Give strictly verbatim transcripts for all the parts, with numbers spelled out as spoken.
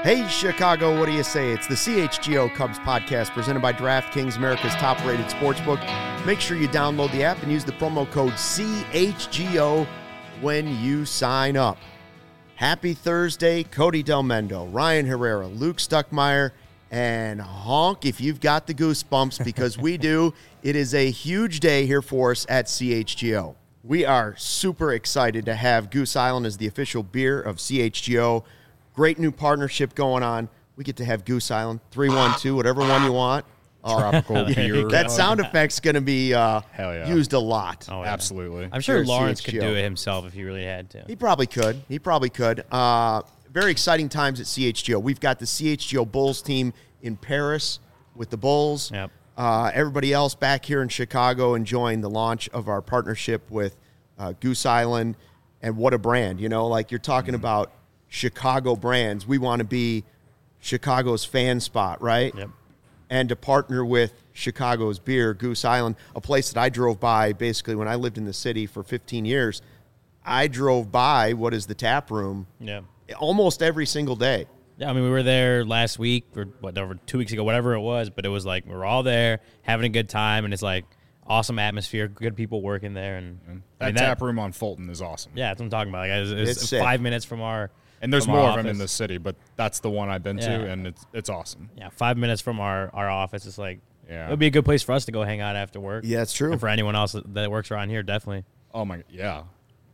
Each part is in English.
Hey, Chicago, what do you say? It's the C H G O Cubs podcast presented by DraftKings, America's top-rated sportsbook. Make sure you download the app and use the promo code C H G O when you sign up. Happy Thursday, Cody Delmendo, Ryan Herrera, Luke Stuckmeyer, and honk if you've got the goosebumps, because we do. It is a huge day here for us at C H G O. We are super excited to have Goose Island as the official beer of C H G O. Great new partnership going on. We get to have Goose Island, three one two, whatever one you want. Tropical beer. That sound effect's going to be uh, Hell yeah. used a lot. Oh, yeah. Absolutely. I'm sure Here at Lawrence C H G O. could do it himself if he really had to. He probably could. He probably could. Uh, very exciting times at C H G O. We've got the C H G O Bulls team in Paris with the Bulls. Yep. Uh, everybody else back here in Chicago enjoying the launch of our partnership with uh, Goose Island. And what a brand. You know, like you're talking Mm-hmm. about Chicago brands. We want to be Chicago's fan spot, right? Yep. And to partner with Chicago's beer, Goose Island, a place that I drove by basically when I lived in the city for fifteen years. I drove by what is the tap room Yeah. almost every single day. Yeah, I mean, we were there last week or whatever, two weeks ago, whatever it was, but it was like we were all there having a good time, and it's like awesome atmosphere, good people working there. And That I mean, tap room on Fulton is awesome. Yeah, that's what I'm talking about. Like, it's, it's It's sick. five minutes from our And there's from more our of them in office. the city, but that's the one I've been Yeah. to, and it's it's awesome. Yeah, five minutes from our, our office. It's like, Yeah. it would be a good place for us to go hang out after work. Yeah, it's true. And for anyone else that, that works around here, definitely. Oh, my, yeah.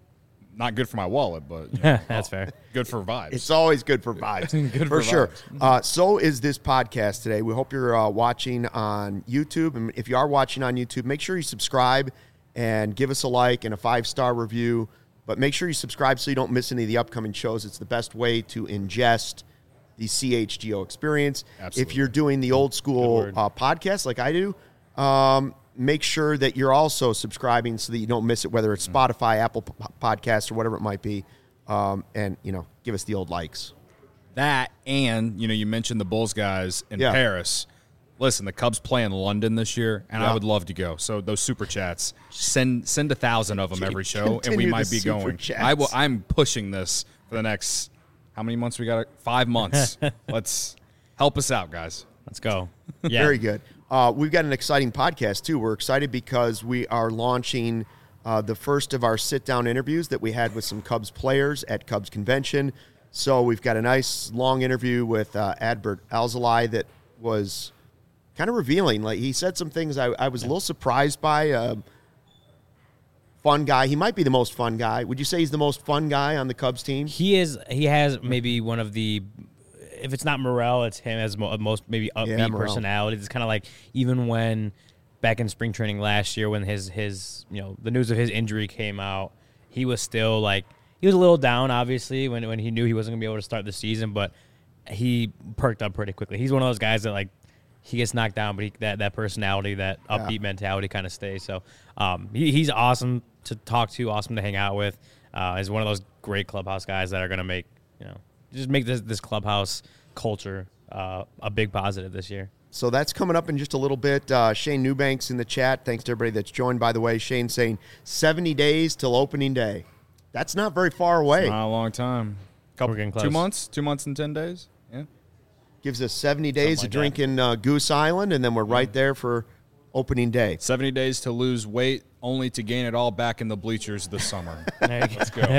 Not good for my wallet, but you know, That's fair. good for vibes. It's always good for vibes. Good for for sure. vibes. Uh, so is this podcast today. We hope you're uh, watching on YouTube. And if you are watching on YouTube, make sure you subscribe and give us a like and a five-star review. But make sure you subscribe so you don't miss any of the upcoming shows. It's the best way to ingest the C H G O experience. Absolutely. If you're doing the old school word. uh, podcast like I do, um, make sure that you're also subscribing so that you don't miss it, whether it's Spotify, Apple P- Podcasts, or whatever it might be. Um, and, you know, give us the old likes. That, and, you know, you mentioned the Bulls guys in Yeah. Paris. Listen, the Cubs play in London this year, and Yeah. I would love to go. So those super chats, send send a thousand of them every show, and we Continue might the be super going. chats. I will. I'm pushing this for the next. How many months we got? Five months. Let's help us out, guys. Let's go. Yeah. Very good. Uh, we've got an exciting podcast, too. We're excited because we are launching uh, the first of our sit-down interviews that we had with some Cubs players at Cubs Convention. So we've got a nice, long interview with uh, Adbert Alzolay that was kind of revealing. Like, he said some things I, I was a little surprised by. Uh, fun guy. He might be the most fun guy. Would you say he's the most fun guy on the Cubs team? He is. He has maybe one of the. If it's not Morel, it's him as mo- most maybe upbeat Yeah, Morel. personality. It's kind of like even when back in spring training last year, when his his you know the news of his injury came out, he was still like he was a little down, obviously, when when he knew he wasn't gonna be able to start the season, but he perked up pretty quickly. He's one of those guys that like he gets knocked down, but he, that that personality, that upbeat Yeah. mentality, kind of stays. So um, he, he's awesome to talk to, awesome to hang out with. Uh, he's one of those great clubhouse guys that are gonna make you know. just make this this clubhouse culture uh, a big positive this year. So that's coming up in just a little bit. Uh, Shane Newbanks in the chat. Thanks to everybody that's joined, by the way. Shane saying seventy days till opening day. That's not very far away. Not a long time. Couple, We're getting close. Two months? Two months and ten days? Yeah. Gives us seventy days Something of like that. drinking uh, Goose Island, and then we're right there for opening day. seventy days to lose weight, only to gain it all back in the bleachers this summer. Let's go.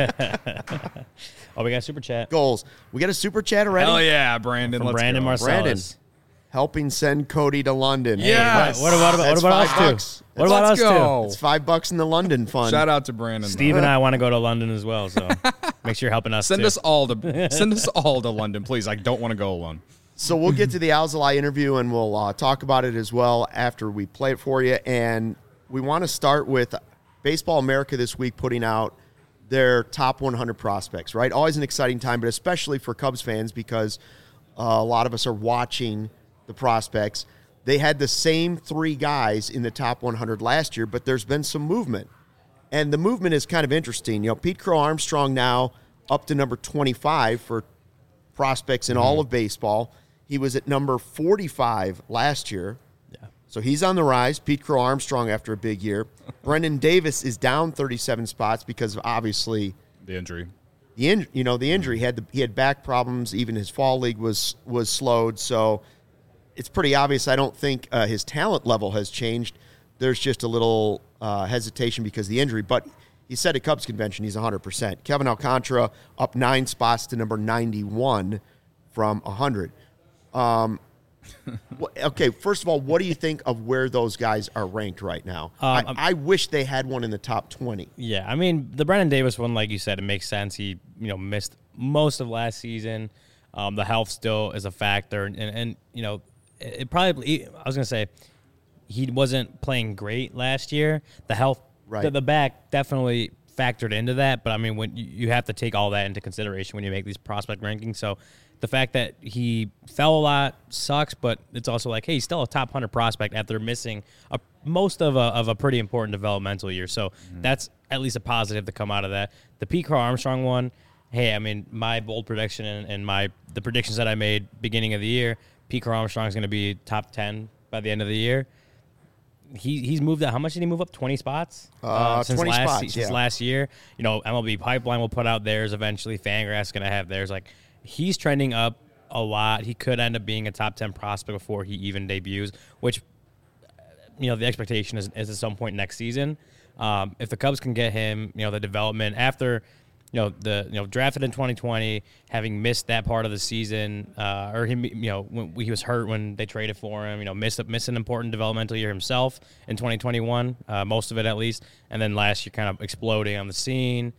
Oh, we got super chat Goals. We got a super chat already? Hell yeah, Brandon. from Let's Brandon go. Marcellus. Brandon. Helping send Cody to London. Yeah. What, what about what That's about us five too? bucks. What about Let's us go. It's five bucks in the London fund. Shout out to Brandon. too? Steve and I want to go to London as well, so make sure you're helping us. Send too. us all to send us all to London, please. I don't want to go alone. So we'll get to the Alzolay interview, and we'll uh, talk about it as well after we play it for you. And we want to start with Baseball America this week putting out their top one hundred prospects, right? Always an exciting time, but especially for Cubs fans because uh, a lot of us are watching the prospects. They had the same three guys in the top one hundred last year, but there's been some movement. And the movement is kind of interesting. You know, Pete Crow Armstrong now up to number twenty-five for prospects in all of baseball. He was at number forty-five last year. Yeah. So he's on the rise. Pete Crow Armstrong after a big year. Brendan Davis is down thirty-seven spots because of obviously, The injury. the in, you know the injury he had the, he had back problems. Even his fall league was was slowed. So it's pretty obvious. I don't think uh, his talent level has changed. There's just a little uh, hesitation because of the injury. But he said at Cubs convention he's one hundred percent. Kevin Alcantara up nine spots to number ninety-one from one hundred. Um, okay, first of all, what do you think of where those guys are ranked right now? Um, I, I wish they had one in the top twenty. Yeah, I mean, the Brennan Davis one, like you said, it makes sense. He, you know, missed most of last season. Um, the health still is a factor. And, and you know, it, it probably, I was going to say, he wasn't playing great last year. The health, right. the, the back definitely factored into that. But, I mean, when you, you have to take all that into consideration when you make these prospect rankings. So, the fact that he fell a lot sucks, but it's also like, hey, he's still a top one hundred prospect after missing a, most of a, of a pretty important developmental year. So mm-hmm. that's at least a positive to come out of that. The Pete Crow Armstrong one, hey, I mean, my bold prediction and, and my the predictions that I made beginning of the year, Pete Crow Armstrong is going to be top ten by the end of the year. He he's moved up. How much did he move up? twenty spots uh, uh, since twenty last spots, since yeah. last year. You know, M L B Pipeline will put out theirs eventually. Fangraphs is going to have theirs. Like, he's trending up a lot. He could end up being a top ten prospect before he even debuts, which, you know, the expectation is, is at some point next season. Um, if the Cubs can get him, you know, the development after, you know, the you know drafted in twenty twenty, having missed that part of the season, uh, or him, you know, when he was hurt when they traded for him, you know, missed missed an important developmental year himself in twenty twenty-one, uh, most of it at least, and then last year kind of exploding on the scene.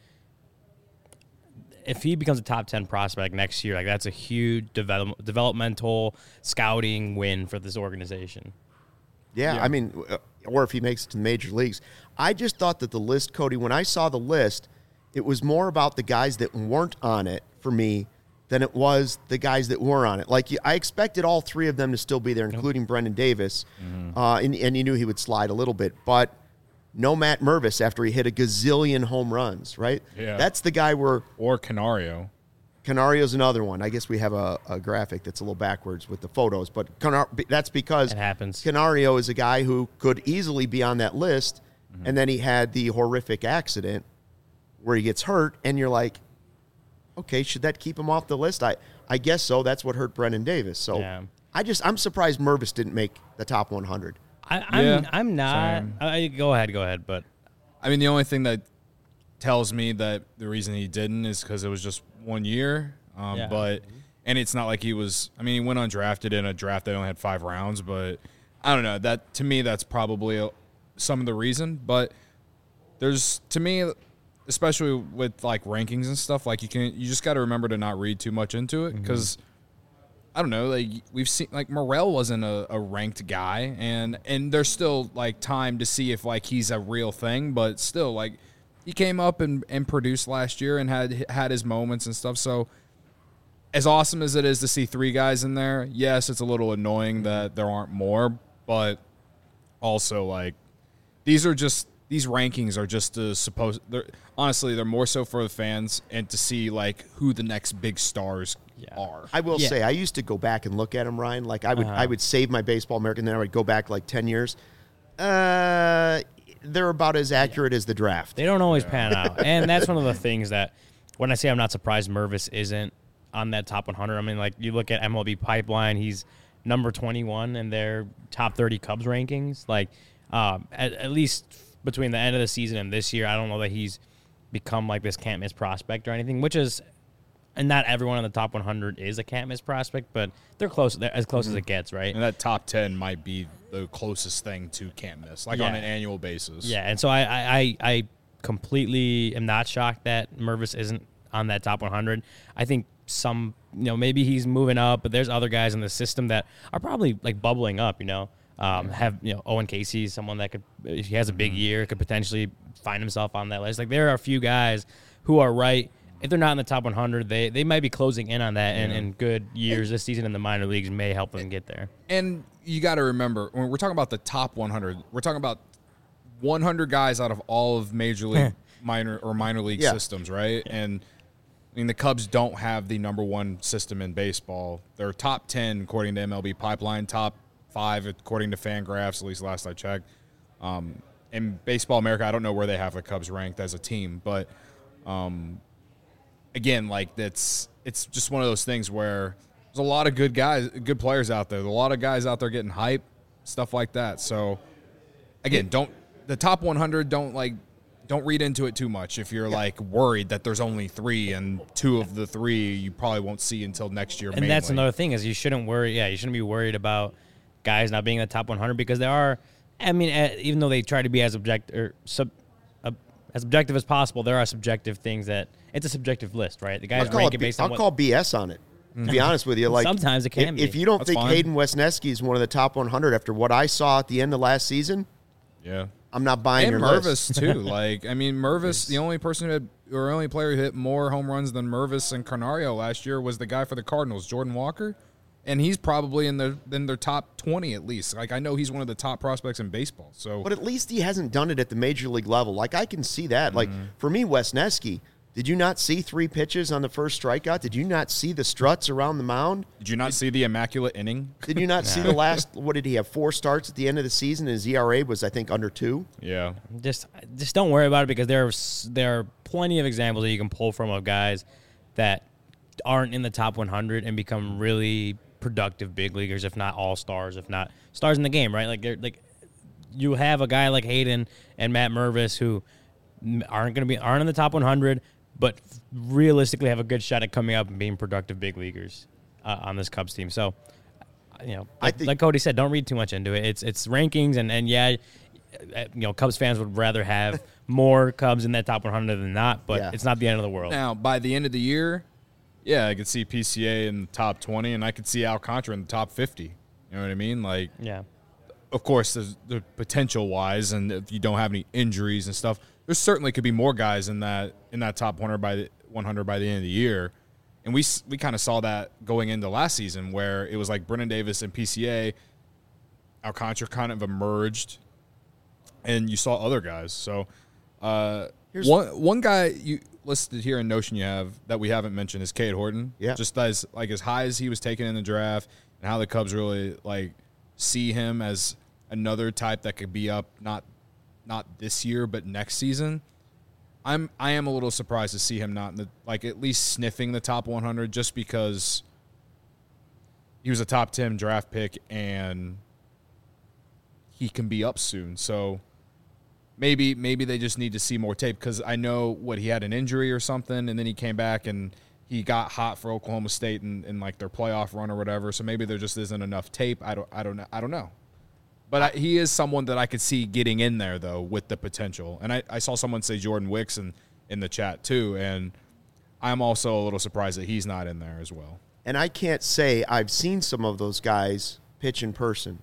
If he becomes a top ten prospect next year, like that's a huge develop, developmental scouting win for this organization. Yeah, yeah. I mean, or if he makes it to the major leagues. I just thought that the list, Cody, when I saw the list, it was more about the guys that weren't on it for me than it was the guys that were on it. Like, I expected all three of them to still be there, including yep. Brendan Davis, mm-hmm. uh, and, and you knew he would slide a little bit, but no Matt Mervis after he hit a gazillion home runs, right? Yeah. That's the guy where... Or Canario. Canario's another one. I guess we have a, a graphic that's a little backwards with the photos, but Canar- that's because it happens. Canario is a guy who could easily be on that list, mm-hmm. and then he had the horrific accident where he gets hurt, and you're like, okay, should that keep him off the list? I, I guess so. That's what hurt Brendan Davis. So yeah. I just I'm surprised Mervis didn't make the top one hundred. I, I'm yeah, I'm not. I, go ahead, go ahead. But I mean, the only thing that tells me that the reason he didn't is because it was just one year. Um, yeah. But and it's not like he was. I mean, he went undrafted in a draft that only had five rounds. But I don't know. That to me, that's probably a, some of the reason. But there's to me, especially with like rankings and stuff, like you can you just got to remember to not read too much into it because. Mm-hmm. I don't know, like we've seen, like Morel wasn't a, a ranked guy, and and there's still like time to see if like he's a real thing, but still like he came up and, and produced last year and had had his moments and stuff. So as awesome as it is to see three guys in there, yes, it's a little annoying that there aren't more, but also like these are just these rankings are just to suppose they're honestly they're more so for the fans and to see like who the next big stars yeah. are. I will yeah. say I used to go back and look at them, Ryan. Like I would uh-huh. I would save my Baseball America, and then I would go back like ten years. Uh, they're about as accurate yeah. as the draft. They don't always yeah. pan out, and that's one of the things that when I say I'm not surprised Mervis isn't on that top one hundred. I mean, like you look at M L B Pipeline, he's number twenty-one in their top thirty Cubs rankings. Like um, at, at least. Between the end of the season and this year, I don't know that he's become like this can't miss prospect or anything, which is, and not everyone in the top one hundred is a can't miss prospect, but they're close, they're as close mm-hmm. as it gets, right? And that top ten might be the closest thing to can't miss, like yeah. on an annual basis. Yeah, and so I, I, I completely am not shocked that Mervis isn't on that top one hundred. I think some, you know, maybe he's moving up, but there's other guys in the system that are probably like bubbling up, you know. Um, have you know Owen Casey, someone that could, if he has a big year, could potentially find himself on that list. Like there are a few guys who are right. If they're not in the top one hundred, they they might be closing in on that, and, yeah. and good years this season in the minor leagues may help them get there. And you got to remember when we're talking about the top one hundred, we're talking about one hundred guys out of all of major league minor or minor league yeah. systems, right? Yeah. And I mean the Cubs don't have the number one system in baseball. They're top ten according to M L B Pipeline, top five according to Fangraphs, at least last I checked. Um, in Baseball America, I don't know where they have the Cubs ranked as a team, but um, again, like that's it's just one of those things where there's a lot of good guys, good players out there. There's a lot of guys out there getting hype, stuff like that. So again, don't the top one hundred don't like don't read into it too much. If you're yeah. like worried that there's only three and two of the three you probably won't see until next year. And mainly. That's another thing is you shouldn't worry. Yeah, you shouldn't be worried about guys not being in the top one hundred because there are. I mean, uh, even though they try to be as object or sub, uh, as objective as possible, there are subjective things that it's a subjective list, right? The guys rank it based I'll on. I'll call B S on it. To be honest with you, like sometimes it can if, be. If you don't That's think fine. Hayden Wesneski is one of the top one hundred after what I saw at the end of last season, yeah, I'm not buying and your Mervis list. too. Like I mean, Mervis, the only person who had or only player who hit more home runs than Mervis and Canario last year was the guy for the Cardinals, Jordan Walker. And he's probably in their in their top twenty at least. Like I know he's one of the top prospects in baseball. So, but at least he hasn't done it at the major league level. Like I can see that. Mm-hmm. Like for me, Wesneski, did you not see three pitches on the first strikeout? Did you not see the struts around the mound? Did you not did, see the immaculate inning? Did you not see the last? What did he have? Four starts at the end of the season. His E R A was I think under two. Yeah. Just just don't worry about it because there are, there are plenty of examples that you can pull from of guys that aren't in the top one hundred and become really productive big leaguers, if not all stars, if not stars in the game, right? Like, they're like you have a guy like Hayden and Matt Mervis who aren't going to be aren't in the top one hundred, but realistically have a good shot at coming up and being productive big leaguers uh, on this Cubs team. So, you know, like, think, like Cody said, don't read too much into it. It's it's rankings, and and yeah, you know, Cubs fans would rather have more Cubs in that top one hundred than not, but yeah. It's not the end of the world. Now, by the end of the year. Yeah, I could see P C A in the top twenty, and I could see Alcantara in the top fifty. You know what I mean? Like, yeah. Of course, there's the potential-wise, and if you don't have any injuries and stuff, there certainly could be more guys in that in that top one hundred by the one hundred by the end of the year. And we we kind of saw that going into last season, where it was like Brennan Davis and P C A, Alcantara kind of emerged, and you saw other guys. So, uh, Here's one one guy you. listed here in Notion you have that we haven't mentioned is Cade Horton. Yeah. Just as like as high as he was taken in the draft and how the Cubs really like see him as another type that could be up not not this year but next season. I'm I am a little surprised to see him not in the, like at least sniffing the top one hundred just because he was a top ten draft pick and he can be up soon. So Maybe maybe they just need to see more tape because I know what he had an injury or something, and then he came back and he got hot for Oklahoma State in, in like their playoff run or whatever. So maybe there just isn't enough tape. I don't I don't know I don't know. But I, he is someone that I could see getting in there though with the potential. And I, I saw someone say Jordan Wicks in, in the chat too, and I'm also a little surprised that he's not in there as well. And I can't say I've seen some of those guys pitch in person.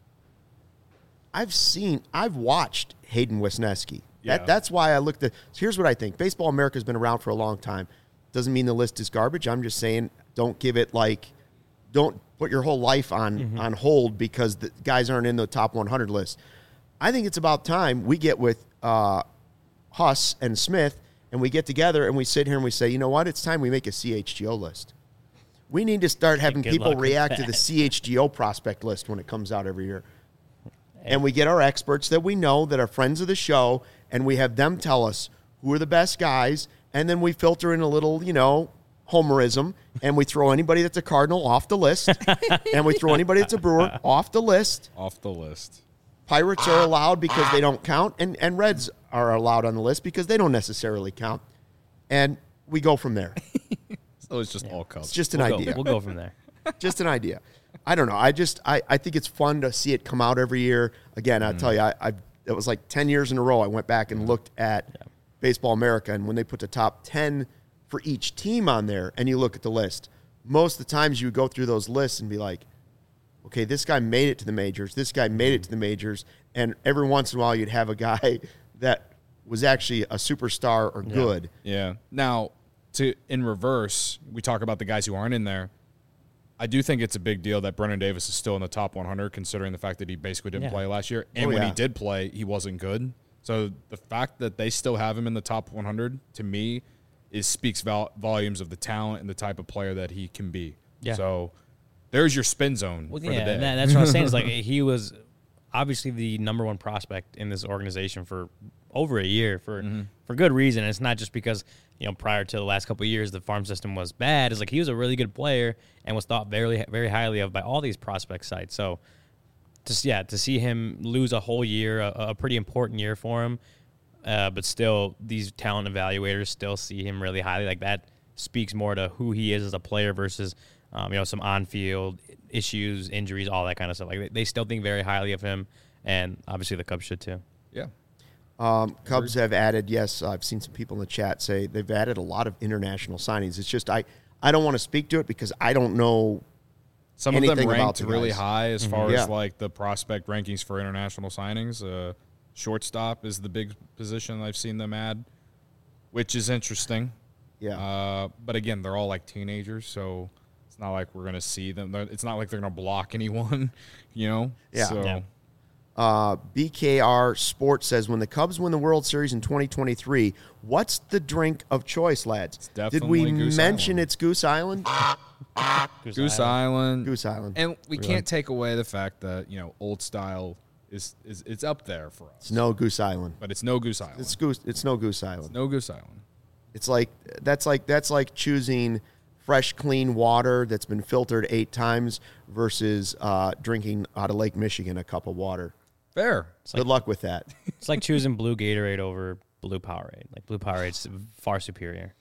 I've seen, I've watched Hayden Wesneski. Yeah. That, that's why I looked at, so here's what I think. Baseball America has been around for a long time. Doesn't mean the list is garbage. I'm just saying don't give it like, don't put your whole life on, mm-hmm. on hold because the guys aren't in the top one hundred list. I think it's about time we get with uh, Huss and Smith and we get together and we sit here and we say, you know what? It's time we make a C H G O list. We need to start having Good people luck with react to that. the C H G O prospect list when it comes out every year. And we get our experts that we know that are friends of the show, and we have them tell us who are the best guys, and then we filter in a little, you know, homerism, and we throw anybody that's a Cardinal off the list, and we throw anybody that's a Brewer off the list. Off the list. Pirates are allowed because they don't count, and, and Reds are allowed on the list because they don't necessarily count. And we go from there. So it's just yeah. all Cubs. It's just an we'll idea. Go, we'll go from there. Just an idea. I don't know. I just I, I think it's fun to see it come out every year. Again, I'll mm. tell you, I, I it was like ten years in a row. I went back and looked at yeah. Baseball America, and when they put the top ten for each team on there, and you look at the list, most of the times you would go through those lists and be like, okay, this guy made it to the majors. This guy made it to the majors, and every once in a while you'd have a guy that was actually a superstar or yeah. good. Yeah. Now, to in reverse, we talk about the guys who aren't in there. I do think it's a big deal that Brennan Davis is still in the top one hundred, considering the fact that he basically didn't yeah. play last year. And oh, when yeah. he did play, he wasn't good. So the fact that they still have him in the top one hundred, to me, is speaks vol- volumes of the talent and the type of player that he can be. Yeah. So there's your spin zone well, for yeah, the day. That, that's what I was saying. Is like he was obviously the number one prospect in this organization for over a year for mm-hmm. for good reason. It's not just because you know, prior to the last couple of years, the farm system was bad. It's like he was a really good player and was thought very, very highly of by all these prospect sites. So, just yeah, to see him lose a whole year, a, a pretty important year for him, uh, but still these talent evaluators still see him really highly. Like that speaks more to who he is as a player versus, um, you know, some on-field issues, injuries, all that kind of stuff. Like they, they still think very highly of him, and obviously the Cubs should too. Yeah. Um, Cubs have added, yes, I've seen some people in the chat say they've added a lot of international signings. It's just I, I don't want to speak to it because I don't know Some of them anything about ranked the really guys. high as far Yeah. as like the prospect rankings for international signings. Uh, shortstop is the big position I've seen them add, which is interesting. Yeah. Uh, but again, they're all like teenagers, so it's not like we're gonna see them. They're- It's not like they're gonna block anyone, you know. Yeah. So, Yeah. Uh, B K R Sports says, when the Cubs win the World Series in twenty twenty-three, what's the drink of choice, lads? Did we definitely Goose mention Island. it's Goose Island? Goose Island. Goose Island. And we can't take away the fact that, you know, old style is, is it's up there for us. It's no Goose Island. But it's no Goose Island. It's Goose. It's no Goose Island. no Goose Island. It's like that's like that's like choosing fresh, clean water that's been filtered eight times versus uh, drinking out of Lake Michigan a cup of water. Fair. Good luck with that. It's like choosing blue Gatorade over blue Powerade. Like blue Powerade's far superior.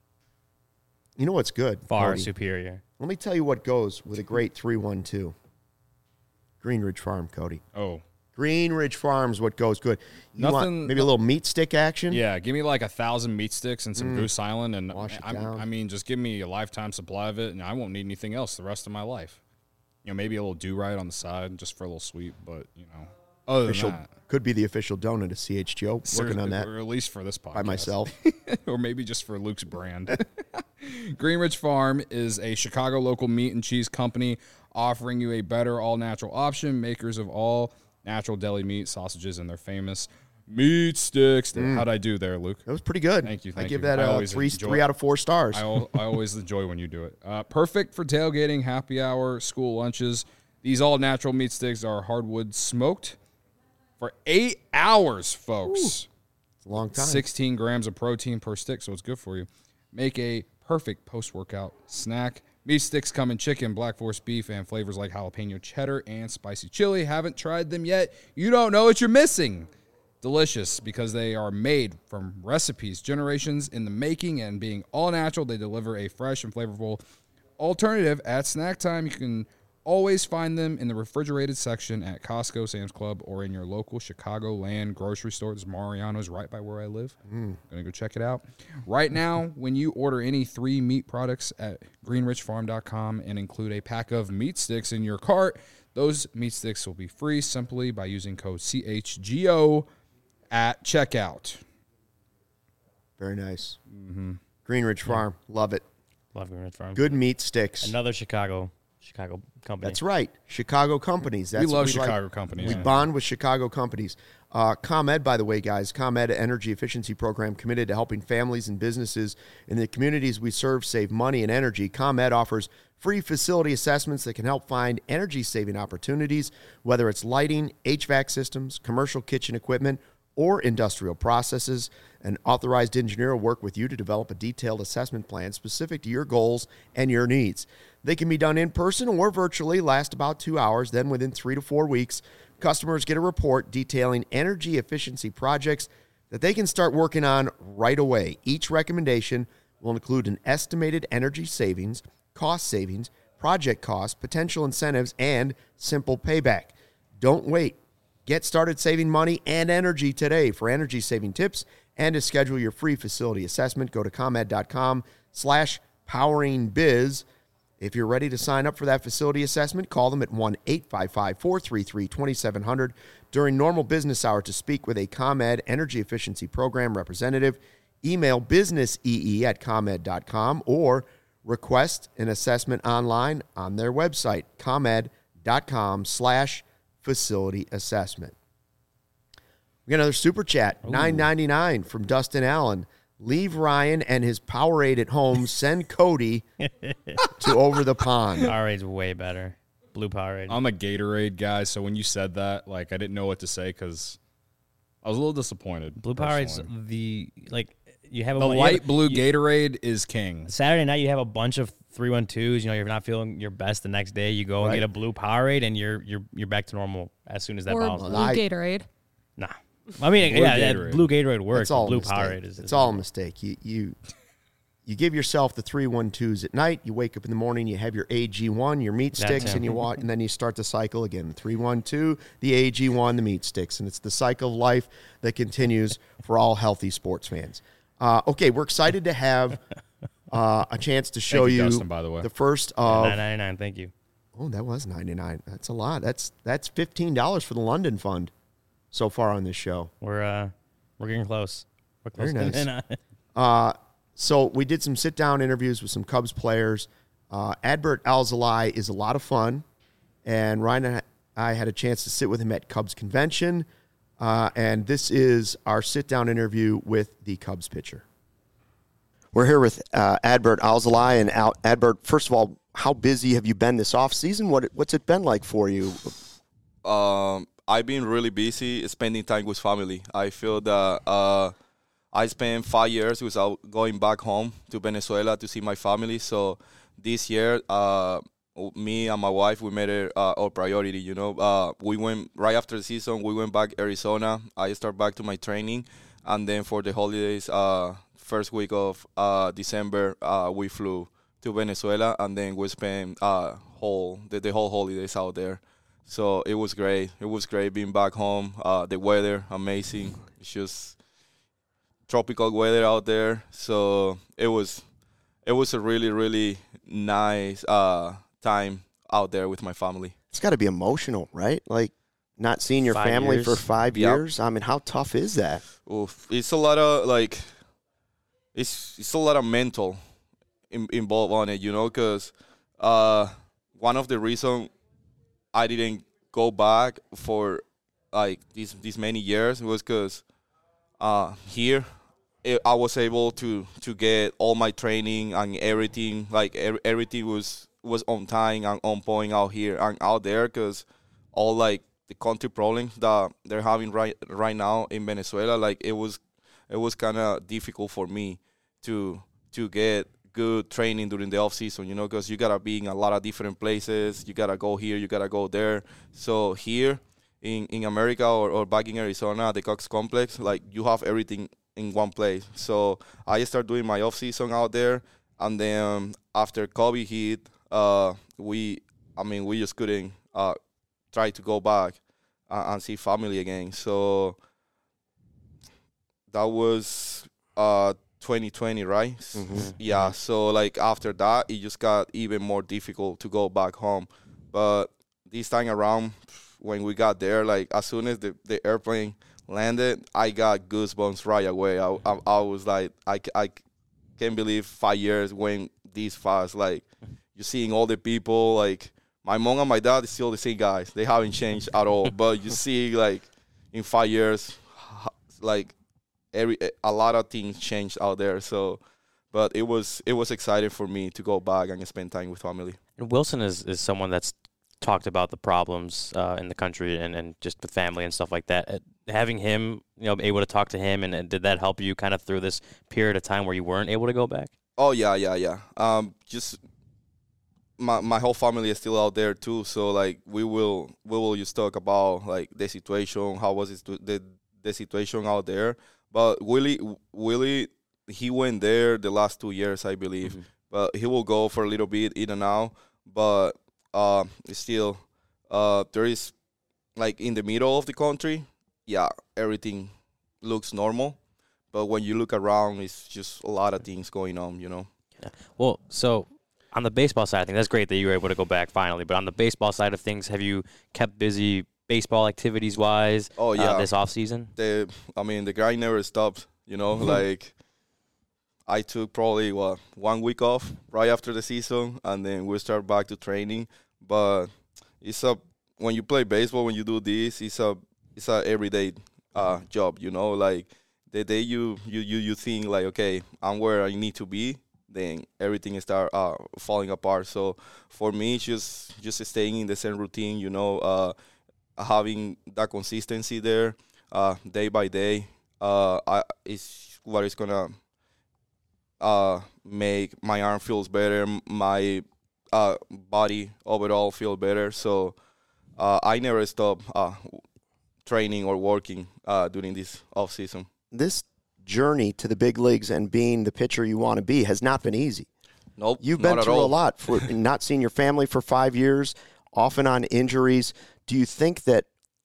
You know what's good? Far Cody? superior. Let me tell you what goes with a great three one two. Greenridge Farm, Cody. Oh. Greenridge Farm's what goes good. You want Nothing- maybe a little meat stick action? Yeah, give me like a thousand meat sticks and some Goose Island, and Wash it I, down. I mean, just give me a lifetime supply of it, and I won't need anything else the rest of my life. You know, maybe a little do-right on the side, just for a little sweet, but you know, other Official, than that, could be the official donut of C H G O. Working seriously, on that or at least for this podcast by myself. or maybe just for Luke's brand. Greenridge Farm is a Chicago local meat and cheese company offering you a better all-natural option. Makers of all natural deli meat, sausages, and their famous meat sticks. How'd I do there, Luke? That was pretty good. Thank you, I thank give you. that I a always three, enjoy- three out of four stars. I, al- I always enjoy when you do it. Uh, perfect for tailgating, happy hour, school lunches. These all-natural meat sticks are hardwood smoked for eight hours, folks. It's a long time. sixteen grams of protein per stick, so it's good for you. Make a perfect post-workout snack. Meat sticks come in chicken, black forest beef, and flavors like jalapeno cheddar and spicy chili. Haven't tried them yet? You don't know what you're missing. Delicious because they are made from recipes, generations in the making, and being all natural, they deliver a fresh and flavorful alternative at snack time. You can always find them in the refrigerated section at Costco, Sam's Club, or in your local Chicagoland grocery store. This Mariano's right by where I live. Mm. Gonna go check it out. Right now, when you order any three meat products at greenridge farm dot com and include a pack of meat sticks in your cart, those meat sticks will be free simply by using code C H G O at checkout. Very nice. Mm-hmm. Greenridge Farm. Love it. Love Greenridge Farm. Good meat sticks. Another Chicago Chicago company. That's right. Chicago companies. That's we what love like. Chicago companies. We bond with Chicago companies. Uh, ComEd, by the way, guys, ComEd Energy Efficiency Program committed to helping families and businesses in the communities we serve save money and energy. ComEd offers free facility assessments that can help find energy-saving opportunities, whether it's lighting, H V A C systems, commercial kitchen equipment, or industrial processes. An authorized engineer will work with you to develop a detailed assessment plan specific to your goals and your needs. They can be done in person or virtually, last about two hours. Then within three to four weeks, customers get a report detailing energy efficiency projects that they can start working on right away. Each recommendation will include an estimated energy savings, cost savings, project costs, potential incentives, and simple payback. Don't wait. Get started saving money and energy today. For energy saving tips and to schedule your free facility assessment, go to ComEd.com slash poweringbiz. If you're ready to sign up for that facility assessment, call them at one eight five five, four three three, two seven zero zero during normal business hour to speak with a ComEd Energy Efficiency Program representative. Email businessee at ComEd dot com or request an assessment online on their website, ComEd.com slash facility assessment. We got another super chat, nine ninety-nine from Dustin Allen. Leave Ryan and his Powerade at home. Send Cody to over the pond. Powerade's way better. Blue Powerade. I'm a Gatorade guy, so when you said that, like, I didn't know what to say because I was a little disappointed. Blue Powerade's personally. the like you have a The you light have, blue you, Gatorade is king. Saturday night, you have a bunch of three one twos. You know, you're not feeling your best the next day. You go and Right. get a blue Powerade, and you're you're you're back to normal as soon as that Or bottle's blue done. I- Gatorade. Nah. I mean, Blue yeah, that Gatorade. blue Gatorade works. It's all but blue a mistake. Powerade is. It's is all a mistake. You you you give yourself the three one twos at night. You wake up in the morning. You have your A G one, your meat That sticks, too. and you walk, and then you start the cycle again. Three one two, the A G one, the meat sticks, and it's the cycle of life that continues for all healthy sports fans. Uh, okay, we're excited to have uh, a chance to show Thank you, you Dustin, by the way. the first of. nine ninety-nine. Thank you. Oh, that was ninety-nine. That's a lot. That's that's fifteen dollars for the London Fund so far on this show. We're uh we're getting close. We're close. Very to- nice. Uh, so we did some sit-down interviews with some Cubs players. Uh, Adbert Alzolay is a lot of fun, and Ryan and I had a chance to sit with him at Cubs convention, uh, and this is our sit-down interview with the Cubs pitcher. We're here with uh, Adbert Alzolay, and Al- Adbert, first of all, how busy have you been this offseason? What what's it been like for you? Um, I've been really busy spending time with family. I feel that uh, I spent five years without going back home to Venezuela to see my family. So this year, uh, me and my wife, we made it uh, our priority. You know, uh, we went right after the season. We went back Arizona. I start back to my training, and then for the holidays, uh, first week of uh, December, uh, we flew to Venezuela, and then we spent uh, whole the, the whole holidays out there. So it was great. It was great being back home. Uh, the weather, amazing. It's just tropical weather out there. So it was, it was a really, really nice uh, time out there with my family. It's got to be emotional, right? Like not seeing your Five family years. for five Yep. years. I mean, how tough is that? Oof. It's a lot of like, it's it's a lot of mental in, involved on it, you know, because uh, one of the reasons I didn't go back for like these these many years was because uh, here it, I was able to to get all my training and everything, like er, everything was was on time and on point out here and out there, because all like the country problems that they're having right right now in Venezuela, like it was it was kind of difficult for me to to get good training during the off season, you know, because you gotta be in a lot of different places. You gotta go here, you gotta go there. So here in, in America or, or back in Arizona, the Cox Complex, like you have everything in one place. So I started doing my off season out there, and then after COVID hit, uh, we, I mean, we just couldn't uh, try to go back uh, and see family again. So that was uh. twenty twenty, right? Mhm. Yeah, so like after that, it just got even more difficult to go back home. But this time around, when we got there, like as soon as the, the airplane landed, I got goosebumps right away. I, I, I was like, I, I can't believe five years went this fast. Like, you're seeing all the people, like my mom and my dad is still the same guys. They haven't changed at all. But you see, like, in five years, like, Every a lot of things changed out there, so but it was it was exciting for me to go back and spend time with family. And Wilson is, is someone that's talked about the problems uh, in the country and, and just with family and stuff like that. Uh, having him, you know, able to talk to him, and, and did that help you kind of through this period of time where you weren't able to go back? Oh yeah, yeah, yeah. Um, just my my whole family is still out there too, so like we will we will just talk about like the situation, how was it the the situation out there. But Willie, Willie, he went there the last two years, I believe. Mm-hmm. But he will go for a little bit in and out. But uh, still, uh, there is, like, in the middle of the country, yeah, everything looks normal. But when you look around, it's just a lot of things going on, you know. Yeah. Well, so on the baseball side of things, that's great that you were able to go back finally. But on the baseball side of things, have you kept busy baseball activities wise? Oh yeah, uh, this off season. The I mean the grind never stopped. You know, Mm-hmm. like I took probably what one week off right after the season, and then we start back to training. But it's a when you play baseball, when you do this, it's a it's a everyday uh, job. You know, like the day you you you you think like, okay, I'm where I need to be, then everything start uh, falling apart. So for me, it's just just staying in the same routine. You know. Uh, having that consistency there uh, day by day uh, I, is what is going to uh, make my arm feels better, my uh, body overall feel better. So uh, I never stop uh, training or working uh, during this off season. This journey to the big leagues and being the pitcher you want to be has not been easy. Nope, You've been not at through all. a lot for not seeing your family for five years, often on injuries. Do you think that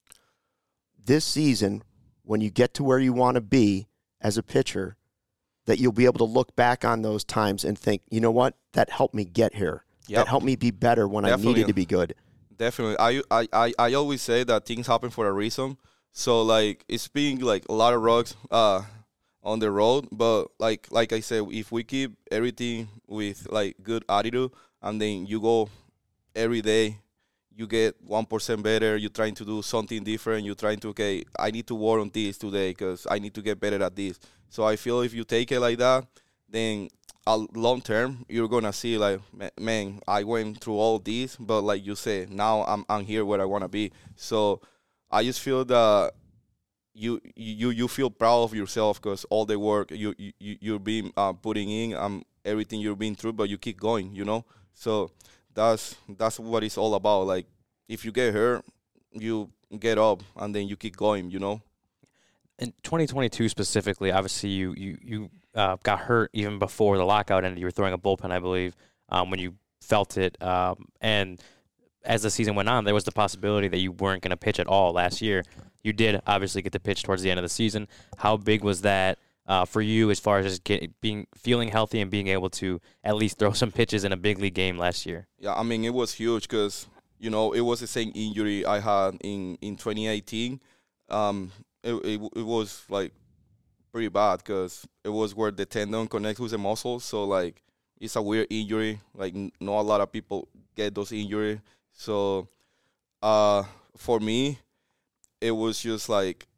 this season, when you get to where you want to be as a pitcher, that you'll be able to look back on those times and think, you know what, that helped me get here. Yep. That helped me be better when Definitely. I needed to be good. Definitely. I, I, I, I always say that things happen for a reason. So, like, it's been, like, a lot of rocks uh, on the road. But, like like I said, if we keep everything with, like, good attitude, and then you go every day, you get one percent better, you're trying to do something different, you're trying to, okay, I need to work on this today because I need to get better at this. So I feel if you take it like that, then uh, long term, you're going to see, like, man, I went through all this, but like you said, now I'm I'm here where I want to be. So I just feel that you you you feel proud of yourself because all the work you, you, you're being uh, putting in, um, everything you've been through, but you keep going, you know? So that's that's what it's all about. Like, if you get hurt, you get up, and then you keep going, you know? In twenty twenty-two specifically, obviously you you you uh, got hurt even before the lockout ended. You were throwing a bullpen, I believe, um, when you felt it. Um, and as the season went on, there was the possibility that you weren't going to pitch at all last year. You did obviously get to pitch towards the end of the season. How big was that uh, for you as far as just get, being feeling healthy and being able to at least throw some pitches in a big league game last year? Yeah, I mean, it was huge because, you know, it was the same injury I had in, in twenty eighteen. Um, it, it it was, like, pretty bad because it was where the tendon connects with the muscle. So, like, it's a weird injury. Like, n- not a lot of people get those injuries. So, uh, for me, it was just like,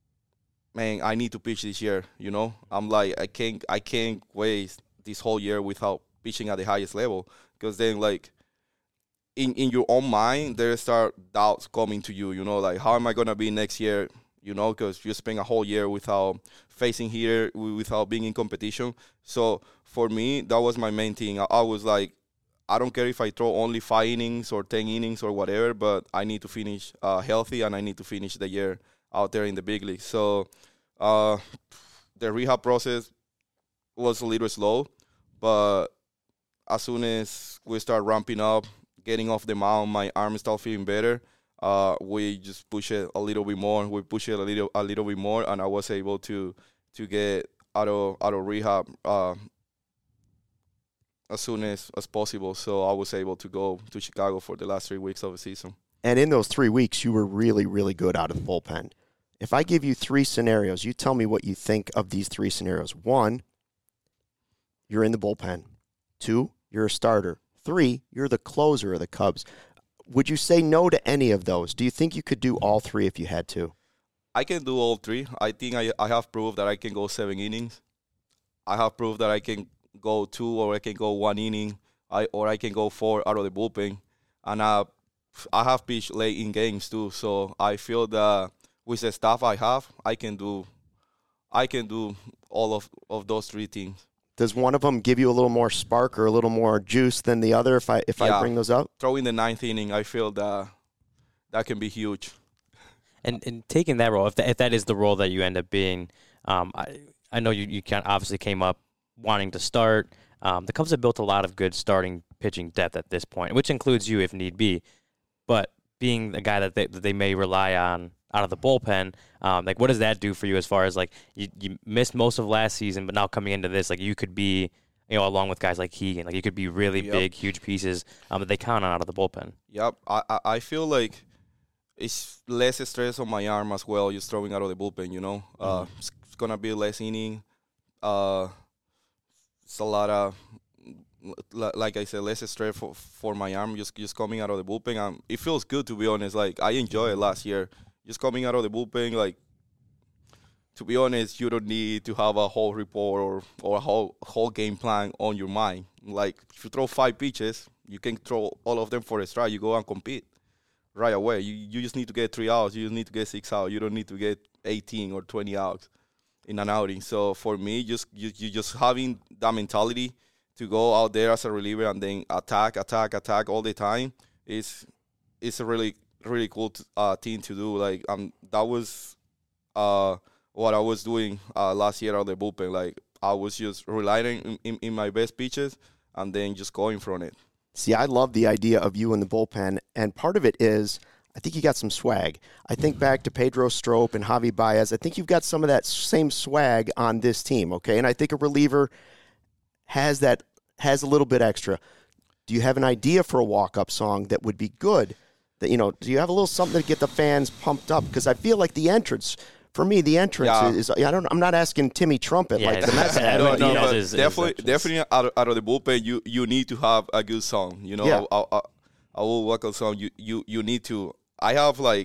man, I need to pitch this year, you know? I'm like, I can't, I can't waste this whole year without pitching at the highest level because then, like, in, in your own mind, there start doubts coming to you, you know, like, how am I going to be next year, you know, because you spend a whole year without facing here, without being in competition. So, for me, that was my main thing. I, I was like, I don't care if I throw only five innings or ten innings or whatever, but I need to finish uh, healthy and I need to finish the year out there in the big league. So uh, the rehab process was a little slow, but as soon as we start ramping up, getting off the mound, my arm start feeling better. Uh, we just push it a little bit more. We push it a little, a little bit more, and I was able to to get out of out of rehab Uh, as soon as, as possible. So I was able to go to Chicago for the last three weeks of the season. And in those three weeks, you were really, really good out of the bullpen. If I give you three scenarios, you tell me what you think of these three scenarios. One, you're in the bullpen. Two, you're a starter. Three, you're the closer of the Cubs. Would you say no to any of those? Do you think you could do all three if you had to? I can do all three. I think I, I have proved that I can go seven innings. I have proved that I can go two or I can go one inning, I or I can go four out of the bullpen. And uh, I have pitched late in games too, so I feel that with the stuff I have, I can do I can do all of, of those three things. Does one of them give you a little more spark or a little more juice than the other if I if Yeah. I bring those up? Throwing the ninth inning, I feel that that can be huge. And and taking that role, if that, if that is the role that you end up being, um, I I know you you can obviously came up wanting to start. Um, the Cubs have built a lot of good starting pitching depth at this point, which includes you if need be. But being the guy that they, that they may rely on out of the bullpen, um, like what does that do for you as far as like you, you missed most of last season, but now coming into this, like you could be, you know, along with guys like Keegan, like you could be really Yep. big, huge pieces um, that they count on out of the bullpen. Yep, I, I I feel like it's less stress on my arm as well, just throwing out of the bullpen, you know. Uh, it's, it's going to be less inning. Uh, it's a lot of, li- like I said, less stress for, for my arm, just just coming out of the bullpen. Um, it feels good, to be honest. Like, I enjoyed it last year. Just coming out of the bullpen, like, to be honest, you don't need to have a whole report or, or a whole whole game plan on your mind. Like, if you throw five pitches, you can throw all of them for a strike. You go and compete right away. You you just need to get three outs. You just need to get six outs. You don't need to get eighteen or twenty outs. in an outing. So for me, just you, you just having that mentality to go out there as a reliever and then attack, attack, attack all the time is is a really really cool t- uh, thing to do. Like um, that was uh, what I was doing uh, last year on the bullpen. Like I was just relying in, in, in my best pitches and then just going from it. See, I love the idea of you in the bullpen, and part of it is I think you got some swag. I think back to Pedro Strop and Javi Baez. I think you've got some of that same swag on this team, okay? And I think a reliever has that has a little bit extra. Do you have an idea for a walk-up song that would be good? That you know, do you have a little something to get the fans pumped up? Because I feel like the entrance, for me, the entrance Yeah. is. I don't. I'm not asking Timmy Trumpet Yeah, like the Mets. I have, don't but, know. you know, But but his- his definitely, entrance. definitely out of, out of the bullpen, you, you need to have a good song. You know, Yeah. a, a, a will walk-up song. You, you you need to. I have like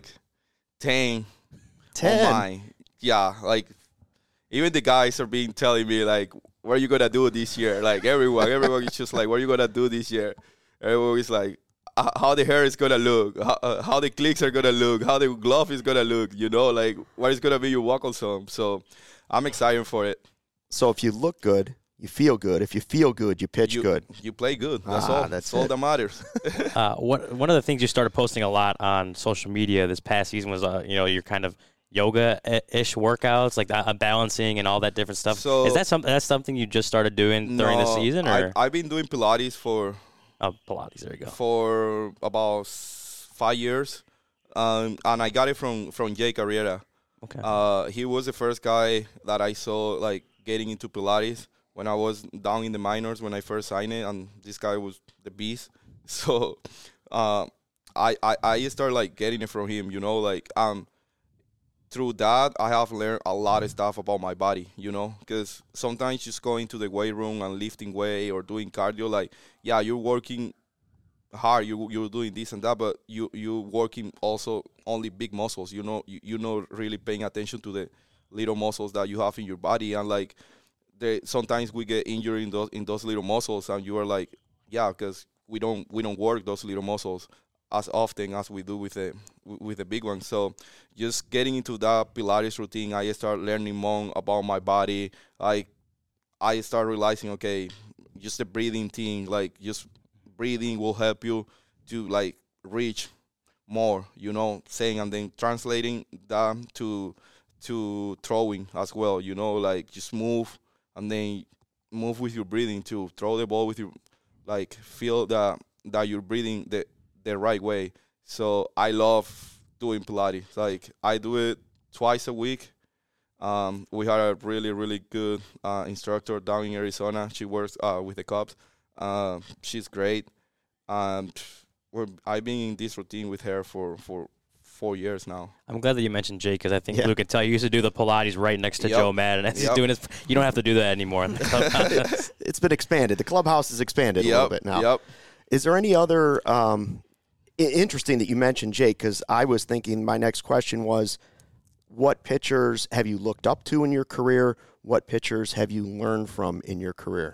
ten. ten. On mine. Yeah, like even the guys are being telling me like, "What are you gonna do this year?" Like everyone, everyone is just like, "What are you gonna do this year?" Everyone is like, "Uh, "How the hair is gonna look, how, uh, how the clicks are gonna look, how the glove is gonna look." You know, like what is gonna be your walk-on song. So I'm excited for it. So if you look good, you feel good. If you feel good, you pitch You, good. you play good. That's Ah, all. that's That's all it. that matters. Uh, one one of the things you started posting a lot on social media this past season was, uh, you know, your kind of yoga-ish workouts, like uh, balancing and all that different stuff. So- Is that something? That's something you just started doing during the No, season, I, or I've been doing Pilates for oh, Pilates? There you go. for about s- five years, um, and I got it from from Jay Carrera. Okay. Uh, he was the first guy that I saw like getting into Pilates when I was down in the minors when I first signed it, and this guy was the beast. So, uh, I, I I started like getting it from him. You know, like um, through that I have learned a lot of stuff about my body. You know, because sometimes just going to the weight room and lifting weight or doing cardio, like yeah, you're working hard, you you're doing this and that, but you you working also only big muscles. You know, you you know really paying attention to the little muscles that you have in your body, and like they sometimes we get injured in those in those little muscles, and you are like, yeah, because we don't we don't work those little muscles as often as we do with the with the big ones. So just getting into that Pilates routine, I start learning more about my body. I I start realizing, okay, just the breathing thing, like just breathing will help you to like reach more, you know, saying, and then translating that to to throwing as well, you know, like just move and then move with your breathing to throw the ball with your, like feel that that you're breathing the the right way. So I love doing Pilates. Like I do it twice a week. Um, we had a really really good uh, instructor down in Arizona. She works uh, with the Cubs. Uh, she's great. Um, we're, I've been in this routine with her for, for four years now. I'm glad that you mentioned Jake, because I think Yeah. Luke could tell you used to do the Pilates right next to Yep. Joe Madden. As he's Yep. doing his, you don't have to do that anymore. In the clubhouse. It's been expanded. The clubhouse has expanded a little bit now. Yep. Is there any other um, i- interesting that you mentioned, Jake? Because I was thinking my next question was, what pitchers have you looked up to in your career? What pitchers have you learned from in your career?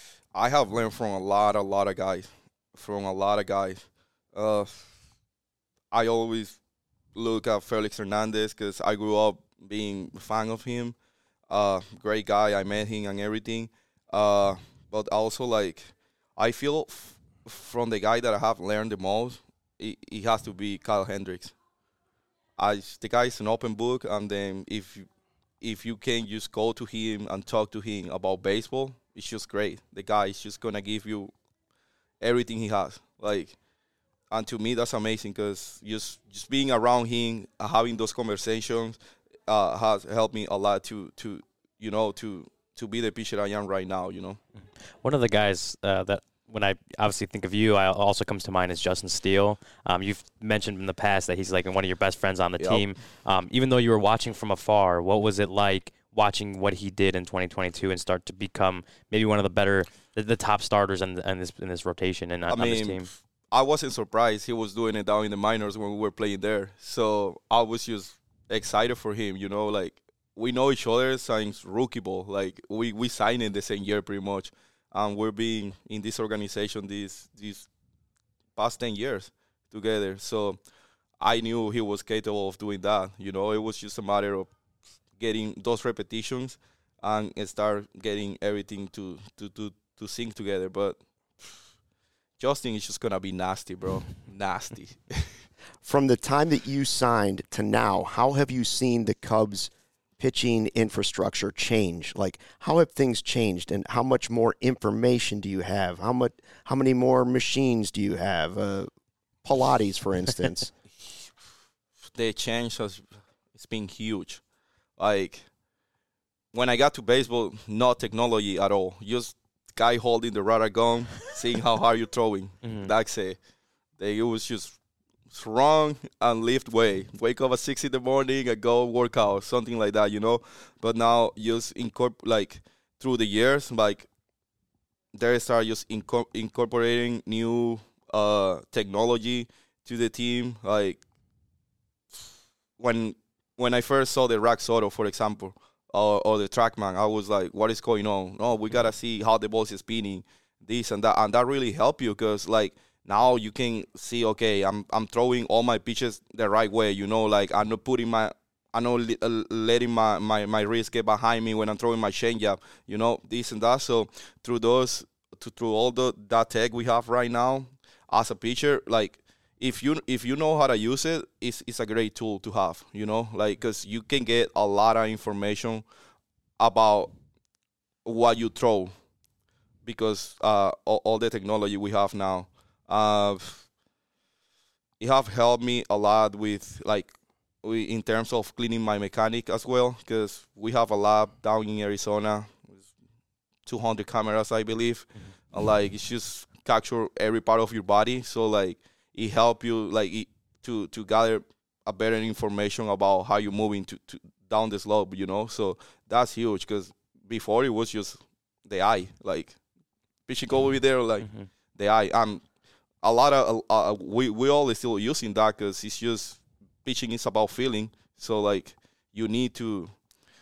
I have learned from a lot, a lot of guys, from a lot of guys. Uh, I always look at Felix Hernandez because I grew up being a fan of him. Uh, great guy. I met him and everything. Uh, but also, like, I feel f- from the guy that I have learned the most, it, it has to be Kyle Hendricks. I, the guy is an open book, and then if you, if you can just go to him and talk to him about baseball, it's just great. The guy is just gonna give you everything he has. Like, and to me, that's amazing because just just being around him, uh, having those conversations, uh, has helped me a lot to to you know to to be the pitcher I am right now. You know. One of the guys uh, that when I obviously think of you, I also comes to mind is Justin Steele. Um, you've mentioned in the past that he's like one of your best friends on the Yep. team. Um, even though you were watching from afar, what was it like watching what he did in twenty twenty-two and start to become maybe one of the better, the, the top starters in, in this in this rotation and on, I on this mean, team? I wasn't surprised he was doing it down in the minors when we were playing there. So I was just excited for him. You know, like we know each other since rookie ball. Like we we signed in the same year pretty much, and we're being in this organization these these past ten years together. So I knew he was capable of doing that. You know, it was just a matter of getting those repetitions and start getting everything to to to, to sync together. But Justin is just gonna be nasty, bro. Nasty. From the time that you signed to now, how have you seen the Cubs pitching infrastructure change? Like, how have things changed, and how much more information do you have? How much? How many more machines do you have? Uh, Pilates, for instance. The change has it's been huge. Like when I got to baseball, no technology at all. Just guy holding the radar gun, seeing how hard you're throwing. Mm-hmm. That's it. They, it was just strong and lift weight. Wake up at six in the morning and go work out, something like that, you know. But now just incorporate, like through the years, like they start just inco- incorporating new uh, technology to the team. Like when when I first saw the Rack Soto, for example, or, or the TrackMan, I was like, what is going on? No, we got to see how the ball is spinning, this and that. And that really helped you because, like, now you can see, okay, I'm I'm throwing all my pitches the right way, you know, like I'm not putting my, I'm not li- uh, letting my, my, my wrist get behind me when I'm throwing my changeup, you know, this and that. So through those, to, through all the that tech we have right now as a pitcher, like, If you if you know how to use it, it's it's a great tool to have, you know, like because you can get a lot of information about what you throw because uh, all, all the technology we have now. Uh, it have helped me a lot with like we, in terms of cleaning my mechanic as well because we have a lab down in Arizona, two hundred cameras I believe, mm-hmm. and like it's just capture every part of your body, so like. It help you like it, to to gather a better information about how you're moving to, to down the slope, you know. So that's huge because before it was just the eye, like pitching over there, like mm-hmm. the eye. Um, a lot of uh, we we all still using that because it's just pitching is about feeling. So like you need to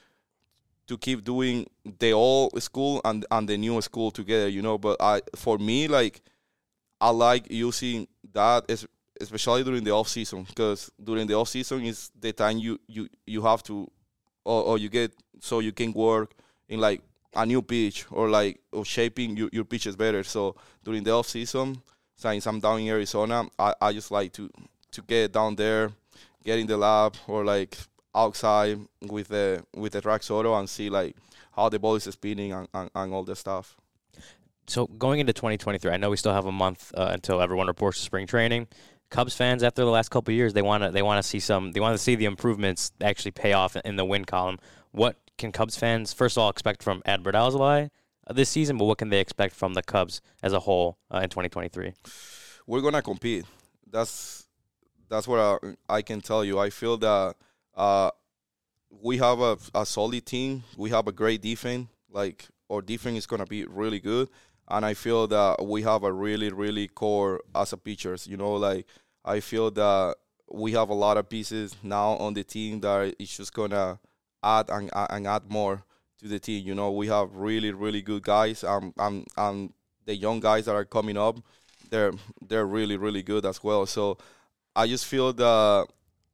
to keep doing the old school and and the new school together, you know. But I for me like. I like using that, especially during the off season, because during the off season is the time you, you, you have to, or, or you get so you can work in like a new pitch or like or shaping your, your pitches better. So during the off season, since I'm down in Arizona, I, I just like to to get down there, get in the lab or like outside with the with the Rack Soto and see like how the ball is spinning and, and, and all the stuff. So going into twenty twenty-three, I know we still have a month uh, until everyone reports to spring training. Cubs fans, after the last couple of years, they want to they want to see some they want to see the improvements actually pay off in the win column. What can Cubs fans first of all expect from Adbert Alzolay this season? But what can they expect from the Cubs as a whole uh, in twenty twenty-three? We're gonna compete. That's that's what I, I can tell you. I feel that uh, we have a, a solid team. We have a great defense. Like our defense is gonna be really good. And I feel that we have a really, really core as a pitchers. You know, like I feel that we have a lot of pieces now on the team that it's just gonna add and, and add more to the team. You know, we have really, really good guys. Um, and and the young guys that are coming up, they're they're really, really good as well. So I just feel that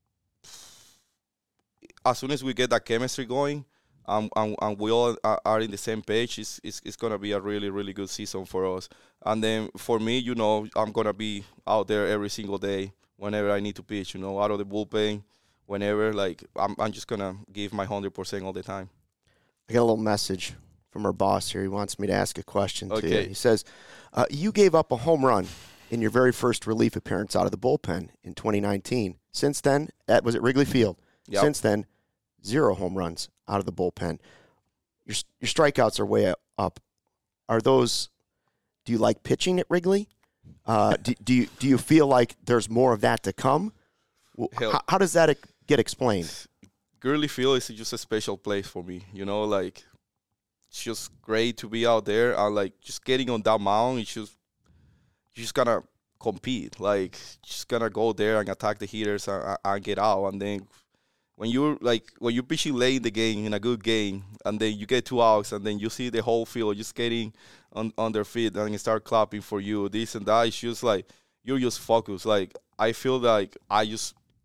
as soon as we get that chemistry going. Um, and, and we all are, are in the same page. It's, it's, it's going to be a really, really good season for us. And then for me, you know, I'm going to be out there every single day whenever I need to pitch, you know, out of the bullpen, whenever. Like, I'm, I'm just going to give my one hundred percent all the time. I got a little message from our boss here. He wants me to ask a question okay. to you. He says, uh, you gave up a home run in your very first relief appearance out of the bullpen in twenty nineteen. Since then, that was at Wrigley Field. Yep. Since then, zero home runs out of the bullpen. Your your strikeouts are way up. Are those? Do you like pitching at Wrigley? Uh, do, do you do you feel like there's more of that to come? How, how does that get explained? Wrigley Field is just a special place for me. You know, like it's just great to be out there. And like just getting on that mound, it's just you just gotta compete. Like just gotta go there and attack the hitters and, and get out, and then. When you're like when you're pitching late in the game in a good game, and then you get two outs, and then you see the whole field just getting on, on their feet and start clapping for you, this and that. It's just like you're just focused. Like I feel like I just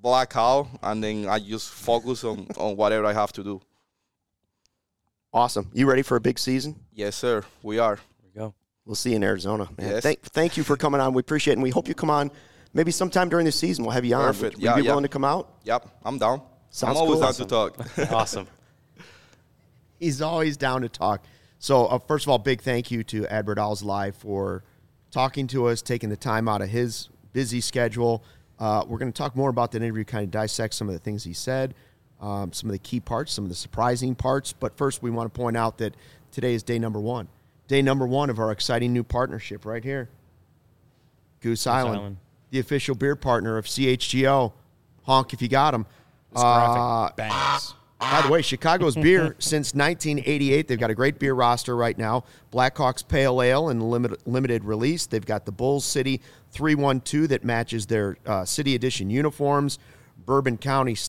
black out, and then I just focus on, on whatever I have to do. Awesome. You ready for a big season? Yes, sir. We are. There we go. We'll see you in Arizona, man. Yes. Thank, thank you for coming on. We appreciate it, and we hope you come on maybe sometime during the season. We'll have you on. Perfect. Would, Yeah, would you be yeah. willing to come out? Yep, I'm down. Sounds I'm always cool. down to talk. Awesome. He's always down to talk. So, uh, first of all, big thank you to Adbert Owls Live for talking to us, taking the time out of his busy schedule. Uh, we're going to talk more about that interview, kind of dissect some of the things he said, um, some of the key parts, some of the surprising parts. But first, we want to point out that today is day number one. Day number one of our exciting new partnership right here. Goose, Island, Island. the official beer partner of C H G O. Honk if you got them. This Uh, graphic bangs. by the way, Chicago's beer since nineteen eighty-eight. They've got a great beer roster right now. Blackhawks Pale Ale in limited, limited release. They've got the Bulls City three one two that matches their uh, City Edition uniforms. Bourbon County